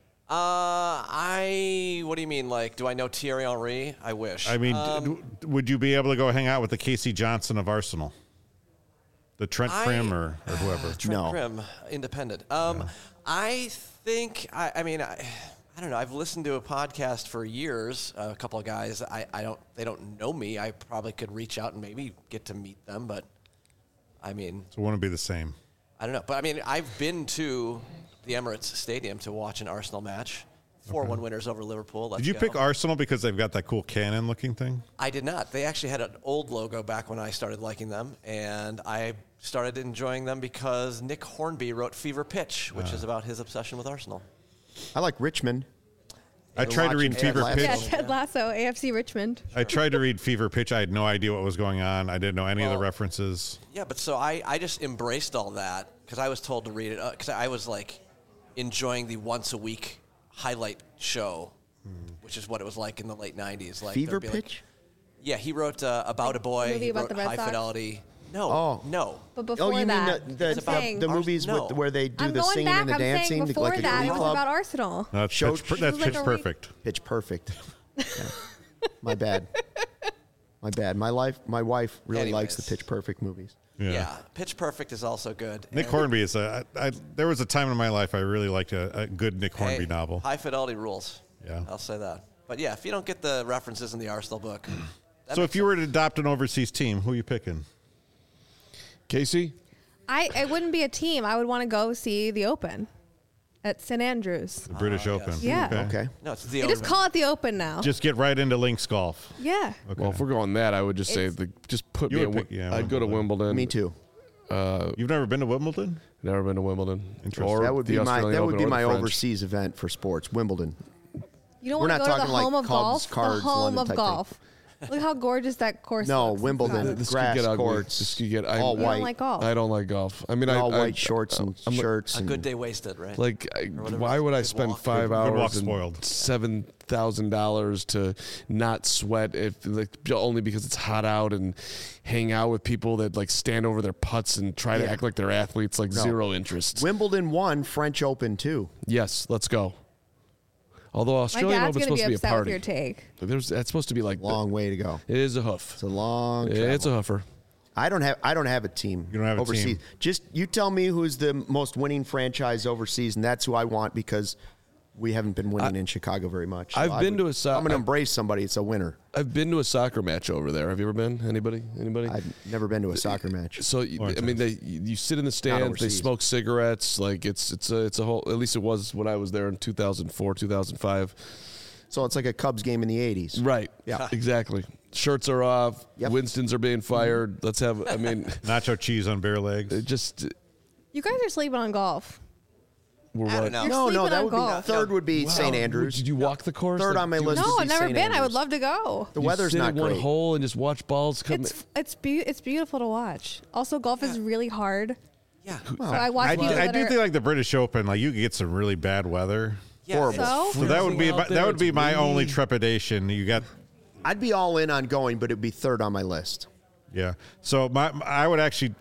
What do you mean? Like, do I know Thierry Henry? I wish. I mean, would you be able to go hang out with the Casey Johnson of Arsenal? The Trent Prim or whoever? Trent Prim, independent. I think, I mean, I don't know. I've listened to a podcast for years. A couple of guys. They don't know me. I probably could reach out and maybe get to meet them. But I mean, So it wouldn't be the same. I don't know. But I mean, I've been to the Emirates Stadium to watch an Arsenal match. 4-1 winners over Liverpool. Let's Did you go. pick Arsenal because they've got that cool cannon-looking thing? I did not. They actually had an old logo back when I started liking them, and I started enjoying them because Nick Hornby wrote Fever Pitch, which is about his obsession with Arsenal. I like Richmond. I tried to read watching Fever Ted Pitch. Yeah, Ted Lasso, AFC Richmond. I tried to read Fever Pitch. I had no idea what was going on. I didn't know any of the references. Yeah, but so I just embraced all that because I was told to read it because I was like enjoying the once-a-week highlight show, which is what it was like in the late 90s. Like Fever there'd be Pitch? Yeah, he wrote About a Boy. movie He about wrote the Red High Sox? Fidelity. No, Oh. no. But before you that, mean I'm saying- the movies No. where they do I'm the going singing back. and the I'm saying dancing, before like a that, Glee it was Club? about Arsenal. No, that's Show- Pitch It was like a Perfect. Pitch Perfect. Yeah. My bad. My bad. My wife really likes the Anyways. Pitch Perfect movies. Yeah. Pitch Perfect is also good. Nick And- Hornby is there was a time in my life I really liked a good Nick Hey, Hornby novel. High Fidelity rules. Yeah. I'll say that. But yeah, if you don't get the references in the Arsenal book. that So makes if you were to adopt an overseas team, who are you picking? Casey? It wouldn't be a team. I would want to go see the Open at St. Andrews. The British Open. Yeah. Okay. No, it's the They just Open. call it the Open now. Just get right into links golf. Yeah. Okay. Well, if we're going that, I would just say It's- just put You me would at pick- yeah, I'd go to Wimbledon. Me too. You've never been to Wimbledon? Never been to Wimbledon. Interesting. Or That would the be Australian Open or the French. overseas event for sports. Wimbledon. You don't We're want to not go to the talking like home of Cubs, golf. Cards, the home London of type golf. Look how gorgeous that course No, looks. It's Wimbledon. not- This could Grass get ugly. courts. This could get. All You don't white. like golf. I don't like golf. I mean, All I white shorts and I'm- shirts. A and good day wasted, right? Like, whatever. why would I Good spend walk. 5 Good walk hours and spoiled. $7,000 to not sweat if only because it's hot out and hang out with people that like stand over their putts and try to Yeah. act like they're athletes? Like zero interest. Wimbledon won French Open too. Yes, let's go. Although My Australian dad's Open's going to supposed be to be a upset with party. your take. That's supposed to be like Long way to go. It is a hoof. It's a long. It's a travel. hoofer. I don't have a team. You don't have a overseas. team. Just you tell me who's the most winning franchise overseas, and that's who I want because we haven't been winning in Chicago very much. I've been to a I'm going to embrace somebody. It's a winner. I've been to a soccer match over there. Have you ever been? Anybody? I've never been to a soccer match. So I mean, you sit in the stands. They smoke cigarettes. Like it's a whole. At least it was when I was there in 2004, 2005. So it's like a Cubs game in the 80s. Right. Yeah. Exactly. Shirts are off. Yep. Winstons are being fired. Let's have. I mean, nacho cheese on bare legs. Just. You guys are sleeping on golf. We're I don't what? know. No, that would golf. be third. Would be St. Andrews. Did you walk the course? Third on my list. No, would I've be never St. been. I would Andrews. love to go. The You weather's sit not in one great. hole and just watch balls come. It's beautiful to watch. Also, golf is really hard. Yeah. So I watch I people that do are- think like the British Open, like you could get some really bad weather. Yeah. Horrible. So? So that would be It's my windy. only trepidation. You got I'd be all in on going, but it'd be third on my list. yeah. So I would actually.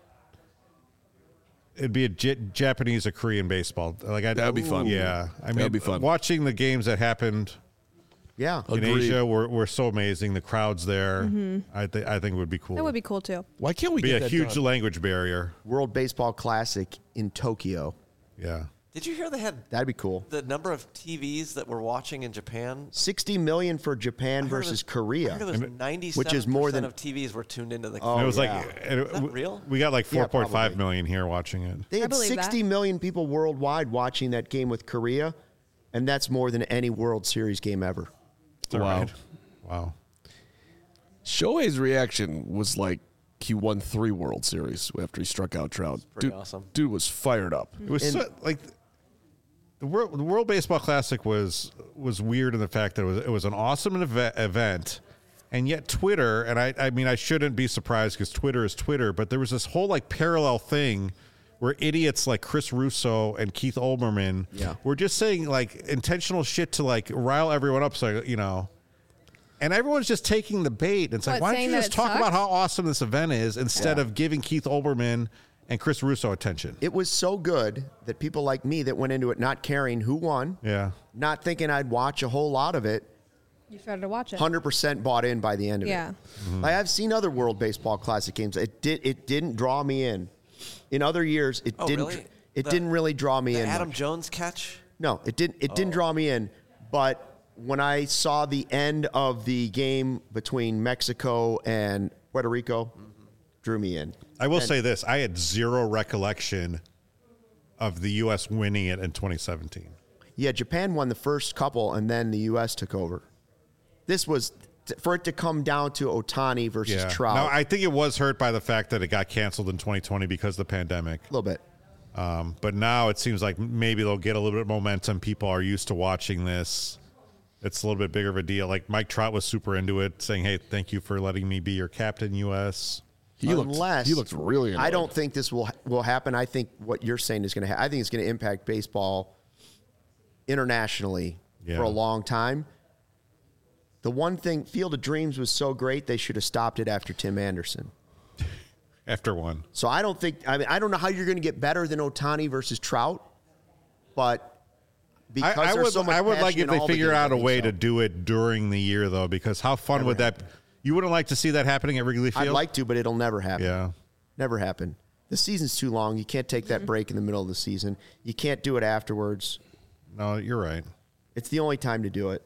It'd be a Japanese or Korean baseball. Like That'd be fun. Yeah, I mean, That'd be fun. Watching the games that happened Yeah. in Agreed. Asia were so amazing. The crowds there, I think it would be cool. That would be cool too. Why can't we be get a that huge done? language barrier. World Baseball Classic in Tokyo. Yeah. Did you hear they had That'd be cool. the number of TVs that we're watching in Japan? 60 million for Japan I heard versus it was- Korea. I heard it was 97% which is more than- of TVs were tuned into the. Oh, And it was yeah. like and Is that real? We got like Yeah, 4.5 probably. million here watching it. They I had believe 60 that. million people worldwide watching that game with Korea, and that's more than any World Series game ever. All Wow. right. Wow. Shohei's reaction was like he won 3 World Series after he struck out Trout. pretty Dude, awesome. Dude was fired up. It was like the World Baseball Classic was weird in the fact that it was an awesome event, and yet Twitter, and I mean I shouldn't be surprised because Twitter is Twitter, but there was this whole like parallel thing where idiots like Chris Russo and Keith Olbermann were just saying like intentional shit to like rile everyone up, so you know. And everyone's just taking the bait. It's like, What, why don't saying you that just it talk about sucks? how awesome this event is instead of giving Keith Olbermann and Chris Russo attention? It was so good that people like me that went into it not caring who won, Yeah. not thinking I'd watch a whole lot of it, You started to watch it. 100% bought in by the end of Yeah. it. Like I've seen other World Baseball Classic games. It didn't draw me in. In other years, it Oh, didn't. really? It didn't really draw me The in. Adam much. Jones catch. No, it didn't. It didn't draw me in. But when I saw the end of the game between Mexico and Puerto Rico, drew me in. I will say this: I had zero recollection of the U.S. winning it in 2017. Yeah, Japan won the first couple, and then the U.S. took over. This was for it to come down to Ohtani versus Trout. Now, I think it was hurt by the fact that it got canceled in 2020 because of the pandemic. a little bit. But now it seems like maybe they'll get a little bit of momentum. People are used to watching this. It's a little bit bigger of a deal. Like Mike Trout was super into it, saying, "Hey, thank you for letting me be your captain, U.S." He looked really annoyed. I don't think this will happen. I think what you're saying is going to happen. I think it's going to impact baseball internationally for a long time. The one thing, Field of Dreams was so great, they should have stopped it after Tim Anderson. After one. So I don't think, I don't know how you're going to get better than Ohtani versus Trout, but because I there's so much I would like passion if in they all the figure games, out I a think way so. to do it during the year, though, because how fun Never would that? happened. You wouldn't like to see that happening at Wrigley Field? I'd like to, but it'll never happen. Yeah. Never happen. The season's too long. You can't take that break in the middle of the season. You can't do it afterwards. No, you're right. It's the only time to do it.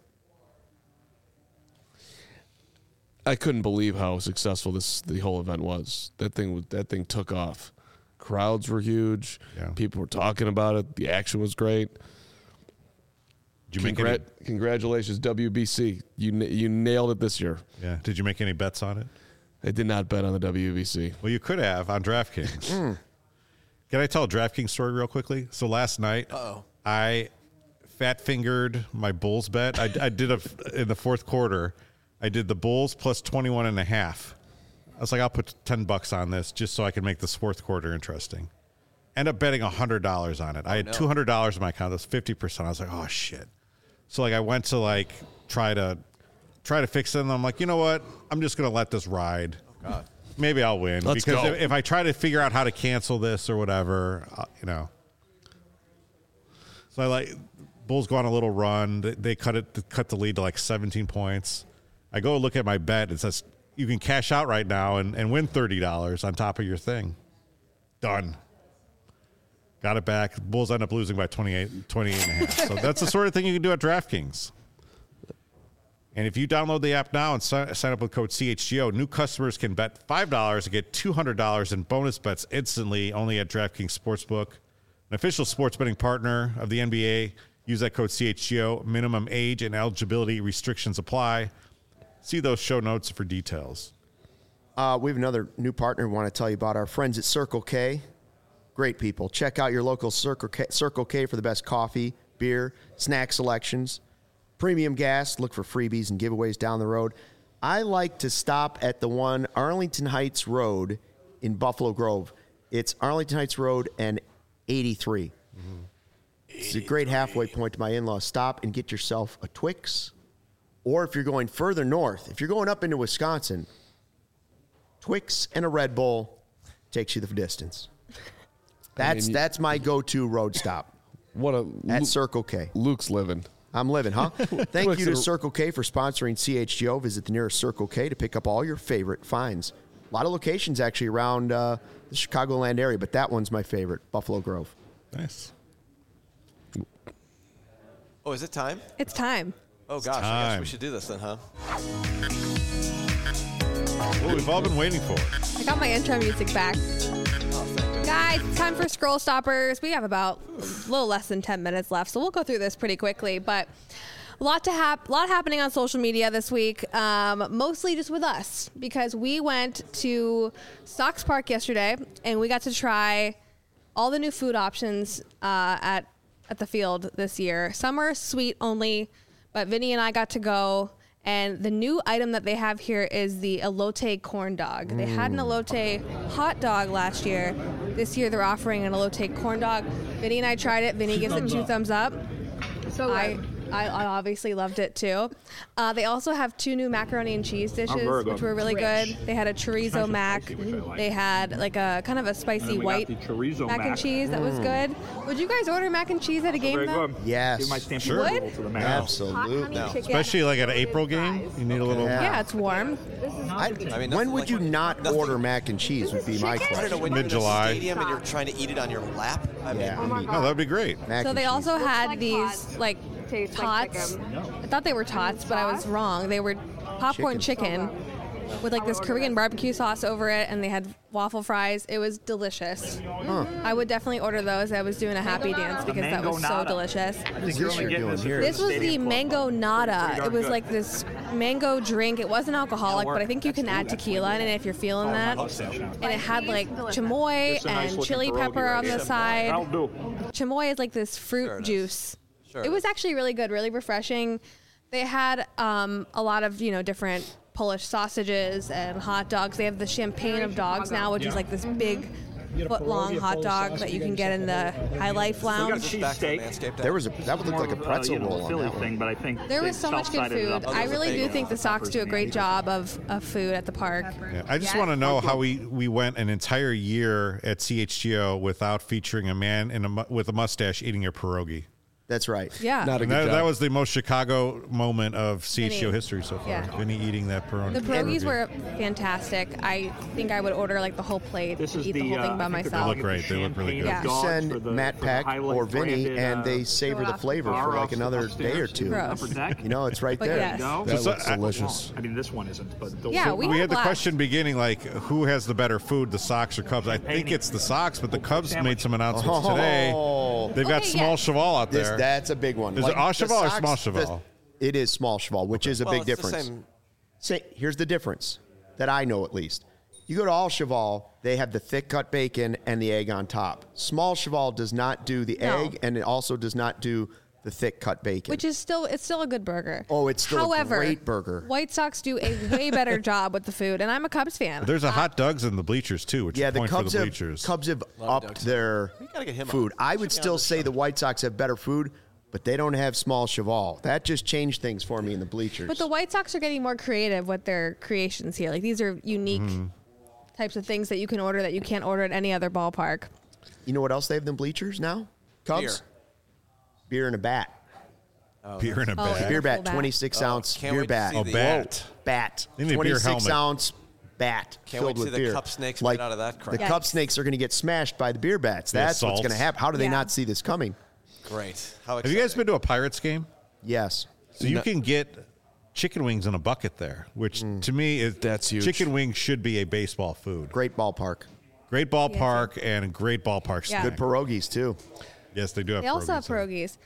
I couldn't believe how successful the whole event was. That thing took off. Crowds were huge. Yeah. People were talking about it. The action was great. Did you make any, Congratulations, WBC. You nailed it this year. yeah. Did you make any bets on it? I did not bet on the WBC. Well, you could have on DraftKings. Can I tell a DraftKings story real quickly? So last night, I fat fingered my Bulls bet. I did in the fourth quarter. I did the Bulls plus 21.5. I was like, I'll put $10 on this just so I can make this fourth quarter interesting. End up betting $100 on it. I had $200 in my account. That's 50%. I was like, oh shit. So like I went to like try to fix it, and I'm like, you know what? I'm just gonna let this ride. Oh God. Maybe I'll win. Let's because go. if I try to figure out how to cancel this or whatever, you know. So I like Bulls go on a little run. They cut the lead to like 17 points. I go look at my bet. It says you can cash out right now and win $30 on top of your thing. Done. got it back. The Bulls end up losing by 28 and a half. So that's the sort of thing you can do at DraftKings. And if you download the app now and sign up with code CHGO, new customers can bet $5 and get $200 in bonus bets instantly only at DraftKings Sportsbook, an official sports betting partner of the NBA. Use that code CHGO. Minimum age and eligibility restrictions apply. See those show notes for details. We have another new partner we want to tell you about, our friends at Circle K. Great people. Check out your local Circle K for the best coffee, beer, snack selections. Premium gas, look for freebies and giveaways down the road. I like to stop at the one Arlington Heights Road in Buffalo Grove. It's Arlington Heights Road and 83. Mm-hmm. It's a great halfway point to my in-laws. Stop and get yourself a Twix. Or if you're going further north, if you're going up into Wisconsin, Twix and a Red Bull takes you the distance. That's my go-to road stop. At Circle K. Luke's living. I'm living, huh? Thank you to Circle K for sponsoring CHGO. Visit the nearest Circle K to pick up all your favorite finds. A lot of locations actually around the Chicagoland area, but that one's my favorite, Buffalo Grove. Nice. Oh, is it time? It's time. Oh, gosh. I guess we should do this then, huh? Well, we've all been waiting for it. I got my intro music back. Guys, it's time for Scroll Stoppers. We have about a little less than 10 minutes left, so we'll go through this pretty quickly. But a lot happening on social media this week, mostly just with us, because we went to Sox Park yesterday, and we got to try all the new food options at the field this year. Some are sweet only, but Vinny and I got to go. And the new item that they have here is the elote corn dog. They had an elote hot dog last year. This year they're offering an elote corn dog. Vinny and I tried it. Vinny gives it 2 thumbs up. So I obviously loved it too. They also have 2 new macaroni and cheese dishes, which were really good. They had a chorizo mac. They had like a kind of a spicy white mac and cheese that was good. Would you guys order mac and cheese at a game though? Yes. Sure. Absolutely. Especially like at an April game, you need a little. Yeah, it's warm. When would you not order mac and cheese would be my question. I don't know, when you're in Mid-July. a stadium and you're trying to eat it on your lap. I mean, Oh, that'd be great. Mac So and they cheese. also had like these tots. like Tastes tots. like I thought they were tots, but I was wrong. They were popcorn chicken with like this Korean barbecue sauce over it, and they had waffle fries. It was delicious. I would definitely order those. I was doing a happy dance because that was so delicious. What is this you're doing here? This was the mango nada. It was like this mango drink. It wasn't alcoholic, but I think you can add tequila in it if you're feeling that. And it had like chamoy and chili pepper on the side. Chamoy is like this fruit juice. It was actually really good, really refreshing. They had a lot of, different Polish sausages and hot dogs. They have the champagne of dogs now, which is like this big foot-long hot dog that you can get in the High Life Lounge. That would look like a pretzel roll on that one. But I think There was so much good food. I really do think the Sox do a great job of food at the park. Yeah, I just want to know how we went an entire year at CHGO without featuring a man with a mustache eating a pierogi. That's right. Yeah. Not a good job. That was the most Chicago moment of CHGO Vinny. history so far. Yeah. Vinny eating that pierogi. The pierogies were fantastic. I think I would order like the whole plate, eat the whole thing by They myself. look great. They look really good. Yeah. You send Matt Peck or Vinny, and they savor the flavor for like another day or 2. Gross. It's right But there. yes. That looks delicious. I mean, this one isn't, but the Yeah, We we had the blast. question beginning, like, who has the better food, the Sox or Cubs? I think it's the Sox, but the Cubs made some announcements today. They've got Okay, small yeah. Cheval out there. That's a big one. Is it Au the Cheval or Sox- Small Cheval? It is small cheval, which is a big it's the difference. same. Here's the difference that I know at least. You go to All Cheval, they have the thick cut bacon and the egg on top. Small Cheval does not do the No. egg, and it also does not do the thick cut bacon. Which is still a good burger. Oh, it's still a great burger. White Sox do a way better job with the food, and I'm a Cubs fan. There's a hot dogs in the bleachers, too, which yeah, is a the point Cubs for the have bleachers. upped their gotta get him food. on. I Should would be on still this say show. the White Sox have better food, but they don't have small Cheval. That just changed things for me in the bleachers. But the White Sox are getting more creative with their creations here. Like these are unique types of things that you can order that you can't order at any other ballpark. You know what else they have in the bleachers now? Cubs? Beer in a bat. Beer in a bag. Beer bat, Full bat. 26 ounce Can't beer wait to bat. see Oh, the- bat. Bat. They need a beer 26 helmet. ounce bat Can't filled wait to with see the beer. cup snakes like made out of that crap. the cup snakes are going to get smashed by the beer bats. That's what's going to happen. How do they not see this coming? Great. How Have you guys been to a Pirates game? Yes. So you can get chicken wings in a bucket there, which to me is That's huge. Chicken wings should be a baseball food. Great ballpark. Great ballpark and a great ballpark snack. Good pierogies too. Yes, they do have. They also have pierogies.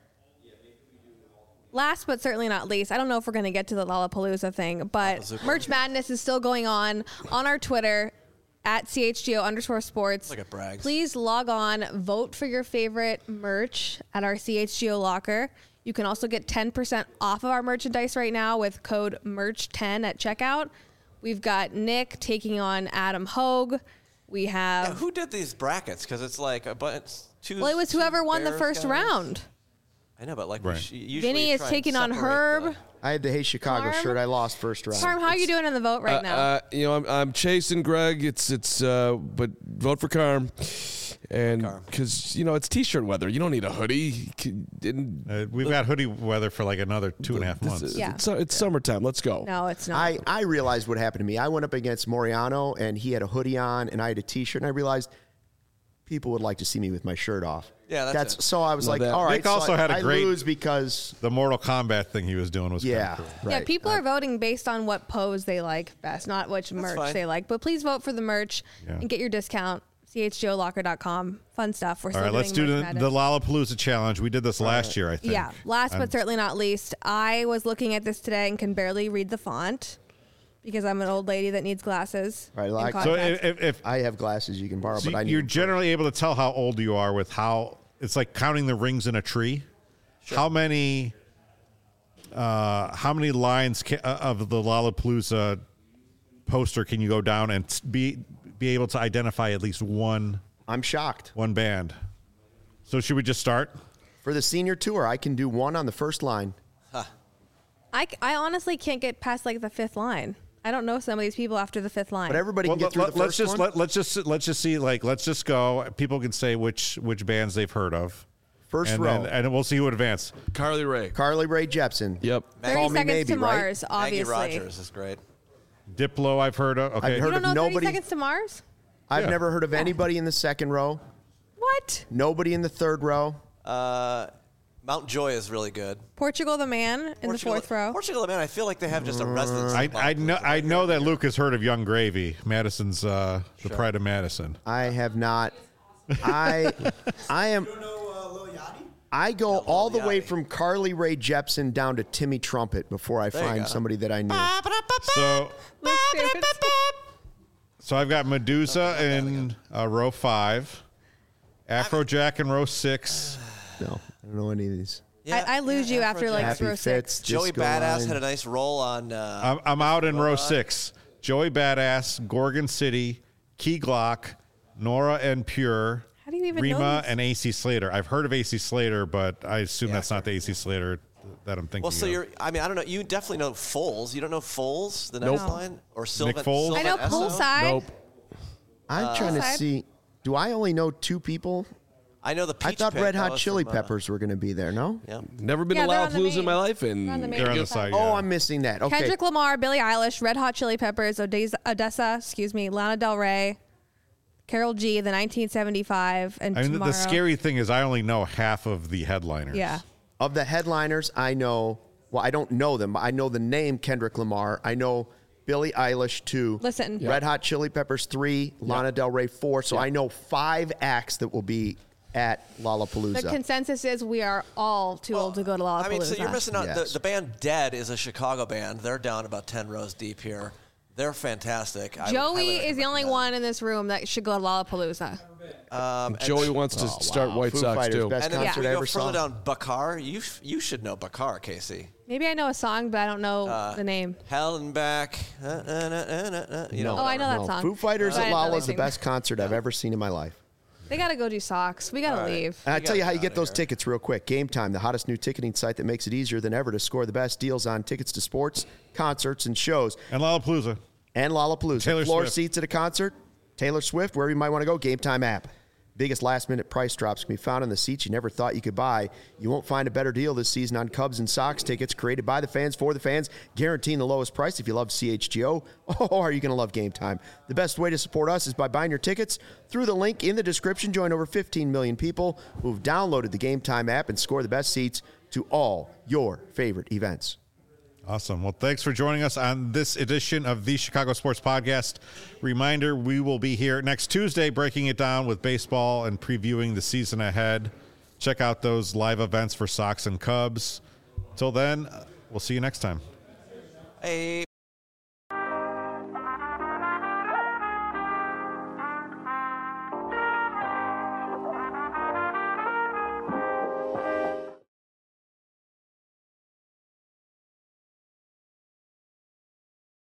Last but certainly not least, I don't know if we're going to get to the Lollapalooza thing, but Merch Madness is still going on our Twitter at @CHGO_sports. Look at Braggs. Please log on, vote for your favorite merch at our CHGO locker. You can also get 10% off of our merchandise right now with code MERCH10 at checkout. We've got Nick taking on Adam Hogue. We have... Yeah, who did these brackets? Because it's like a bunch. Well, it was whoever won the first round. I know, but like usually Vinny you is try taking on and separate Herb. I had the Hey Chicago Harm? shirt. I lost first round. Carm, how are you doing in the vote right now? I'm chasing Greg. It's but vote for Carm, and because it's T-shirt weather. You don't need a hoodie. We've got hoodie weather for like another 2.5 months. Yeah. It's summertime. Let's go. No, it's not. I realized what happened to me. I went up against Moriano, and he had a hoodie on, and I had a T-shirt, and I realized people would like to see me with my shirt off. Yeah, that's it. So I was like, all right. Nick also had a great. I lose because the Mortal Kombat thing he was doing was kind of cool. right. Yeah, people are voting based on what pose they like best, not which merch fine. they like. But please vote for the merch and get your discount. CHGOlocker.com. Fun stuff. We're All still right, let's doing do Merch the Madness. Lollapalooza challenge. We did this last year, I think. Yeah, last but certainly not least, I was looking at this today and can barely read the font because I'm an old lady that needs glasses. Right, in like- So context. if I have glasses you can borrow, so but I need you're them generally able to tell how old you are with how it's like counting the rings in a tree. Sure. How many lines of the Lollapalooza poster can you go down and be able to identify at least one? I'm shocked. One band. So should we just start? For the senior tour, I can do one on the first line. I honestly can't get past like the fifth line. I don't know some of these people after the fifth line. But everybody can get through the first one. Let's just see. Like, let's just go. People can say which bands they've heard of. First and row. and we'll see who advances. Carly Rae Jepsen. Yep. 30 Call Me Seconds Maybe, to Mars, right? obviously. Maggie Rogers is great. Diplo, I've heard of. Okay. I've heard You don't of know 30 nobody. Seconds to Mars? I've never heard of anybody in the second row. What? Nobody in the third row. Mount Joy is really good. Portugal the Man in the fourth row. Portugal the Man, I feel like they have just a residence. I know that Luke has heard of Young Gravy. Madison's the Pride of Madison. I have not. I am. I go all the way from Carly Rae Jepsen down to Timmy Trumpet before I find somebody that I knew. So I've got Medusa in row 5, Afrojack in row 6. No, I don't know any of these. Yeah, I lose you after like Happy row Fits, 6. Joey Disco Badass Line. had a nice roll on. I'm out in row 6. Joey Badass, Gorgon City, Key Glock, Nora and Pure, How do you even know Rima, these? and AC Slater. I've heard of AC Slater, but I assume that's not the AC Slater that I'm thinking well, so of. I don't know. You definitely know Foles. You don't know Foles, the next line? Or Sylvan? Nick Foles? I know Sylvan Esso? Poolside. Nope. I'm trying to Side. see. Do I only know 2 people? I know the Peach I thought Pit, Red that Hot was Chili from, Peppers were going to be there. No. Yeah. Never been Yeah, to they're on the Lollapalooza in my main. life, They're on the and main. They're on the side. Oh, yeah. I'm missing that. Okay. Kendrick Lamar, Billie Eilish, Red Hot Chili Peppers, Odessa, Lana Del Rey, Karol G, the 1975, and I mean, Tomorrow. the scary thing is I only know half of the headliners. Yeah. Of the headliners, I know. Well, I don't know them. I know the name Kendrick Lamar. I know Billie Eilish 2. Listen. Red Hot Chili Peppers 3. Lana Del Rey 4. So I know 5 acts that will be at Lollapalooza. The consensus is we are all too old to go to Lollapalooza. I mean, so you're missing out. Yes. The band Dead is a Chicago band. They're down about 10 rows deep here. They're fantastic. I would Joey highly is the only recommend one in this room that should go to Lollapalooza. Joey wants to start White Foo Sox Fighters, too. best And then if concert we I go ever further saw. down, Bakar, you should know Bakar, Casey. Maybe I know a song, but I don't know the name. Hell and Back. You know, Oh, I know that No, song. Foo Fighters But I at didn't know Lolla they is the sing. best concert I've ever seen in my life. They got to go do socks. We got to leave. And I tell you how you get those tickets real quick. Game Time, the hottest new ticketing site that makes it easier than ever to score the best deals on tickets to sports, concerts, and shows. And Lollapalooza. And Lollapalooza. Taylor Floor Swift. seats at a concert, Taylor Swift, wherever you might want to go, Game Time app. Biggest last-minute price drops can be found on the seats you never thought you could buy. You won't find a better deal this season on Cubs and Sox tickets created by the fans for the fans, guaranteeing the lowest price. If you love CHGO, are you going to love Game Time? The best way to support us is by buying your tickets through the link in the description. Join over 15 million people who've downloaded the Game Time app and score the best seats to all your favorite events. Awesome. Well, thanks for joining us on this edition of the Chicago Sports Podcast. Reminder, we will be here next Tuesday breaking it down with baseball and previewing the season ahead. Check out those live events for Sox and Cubs. Till then, we'll see you next time. Hey.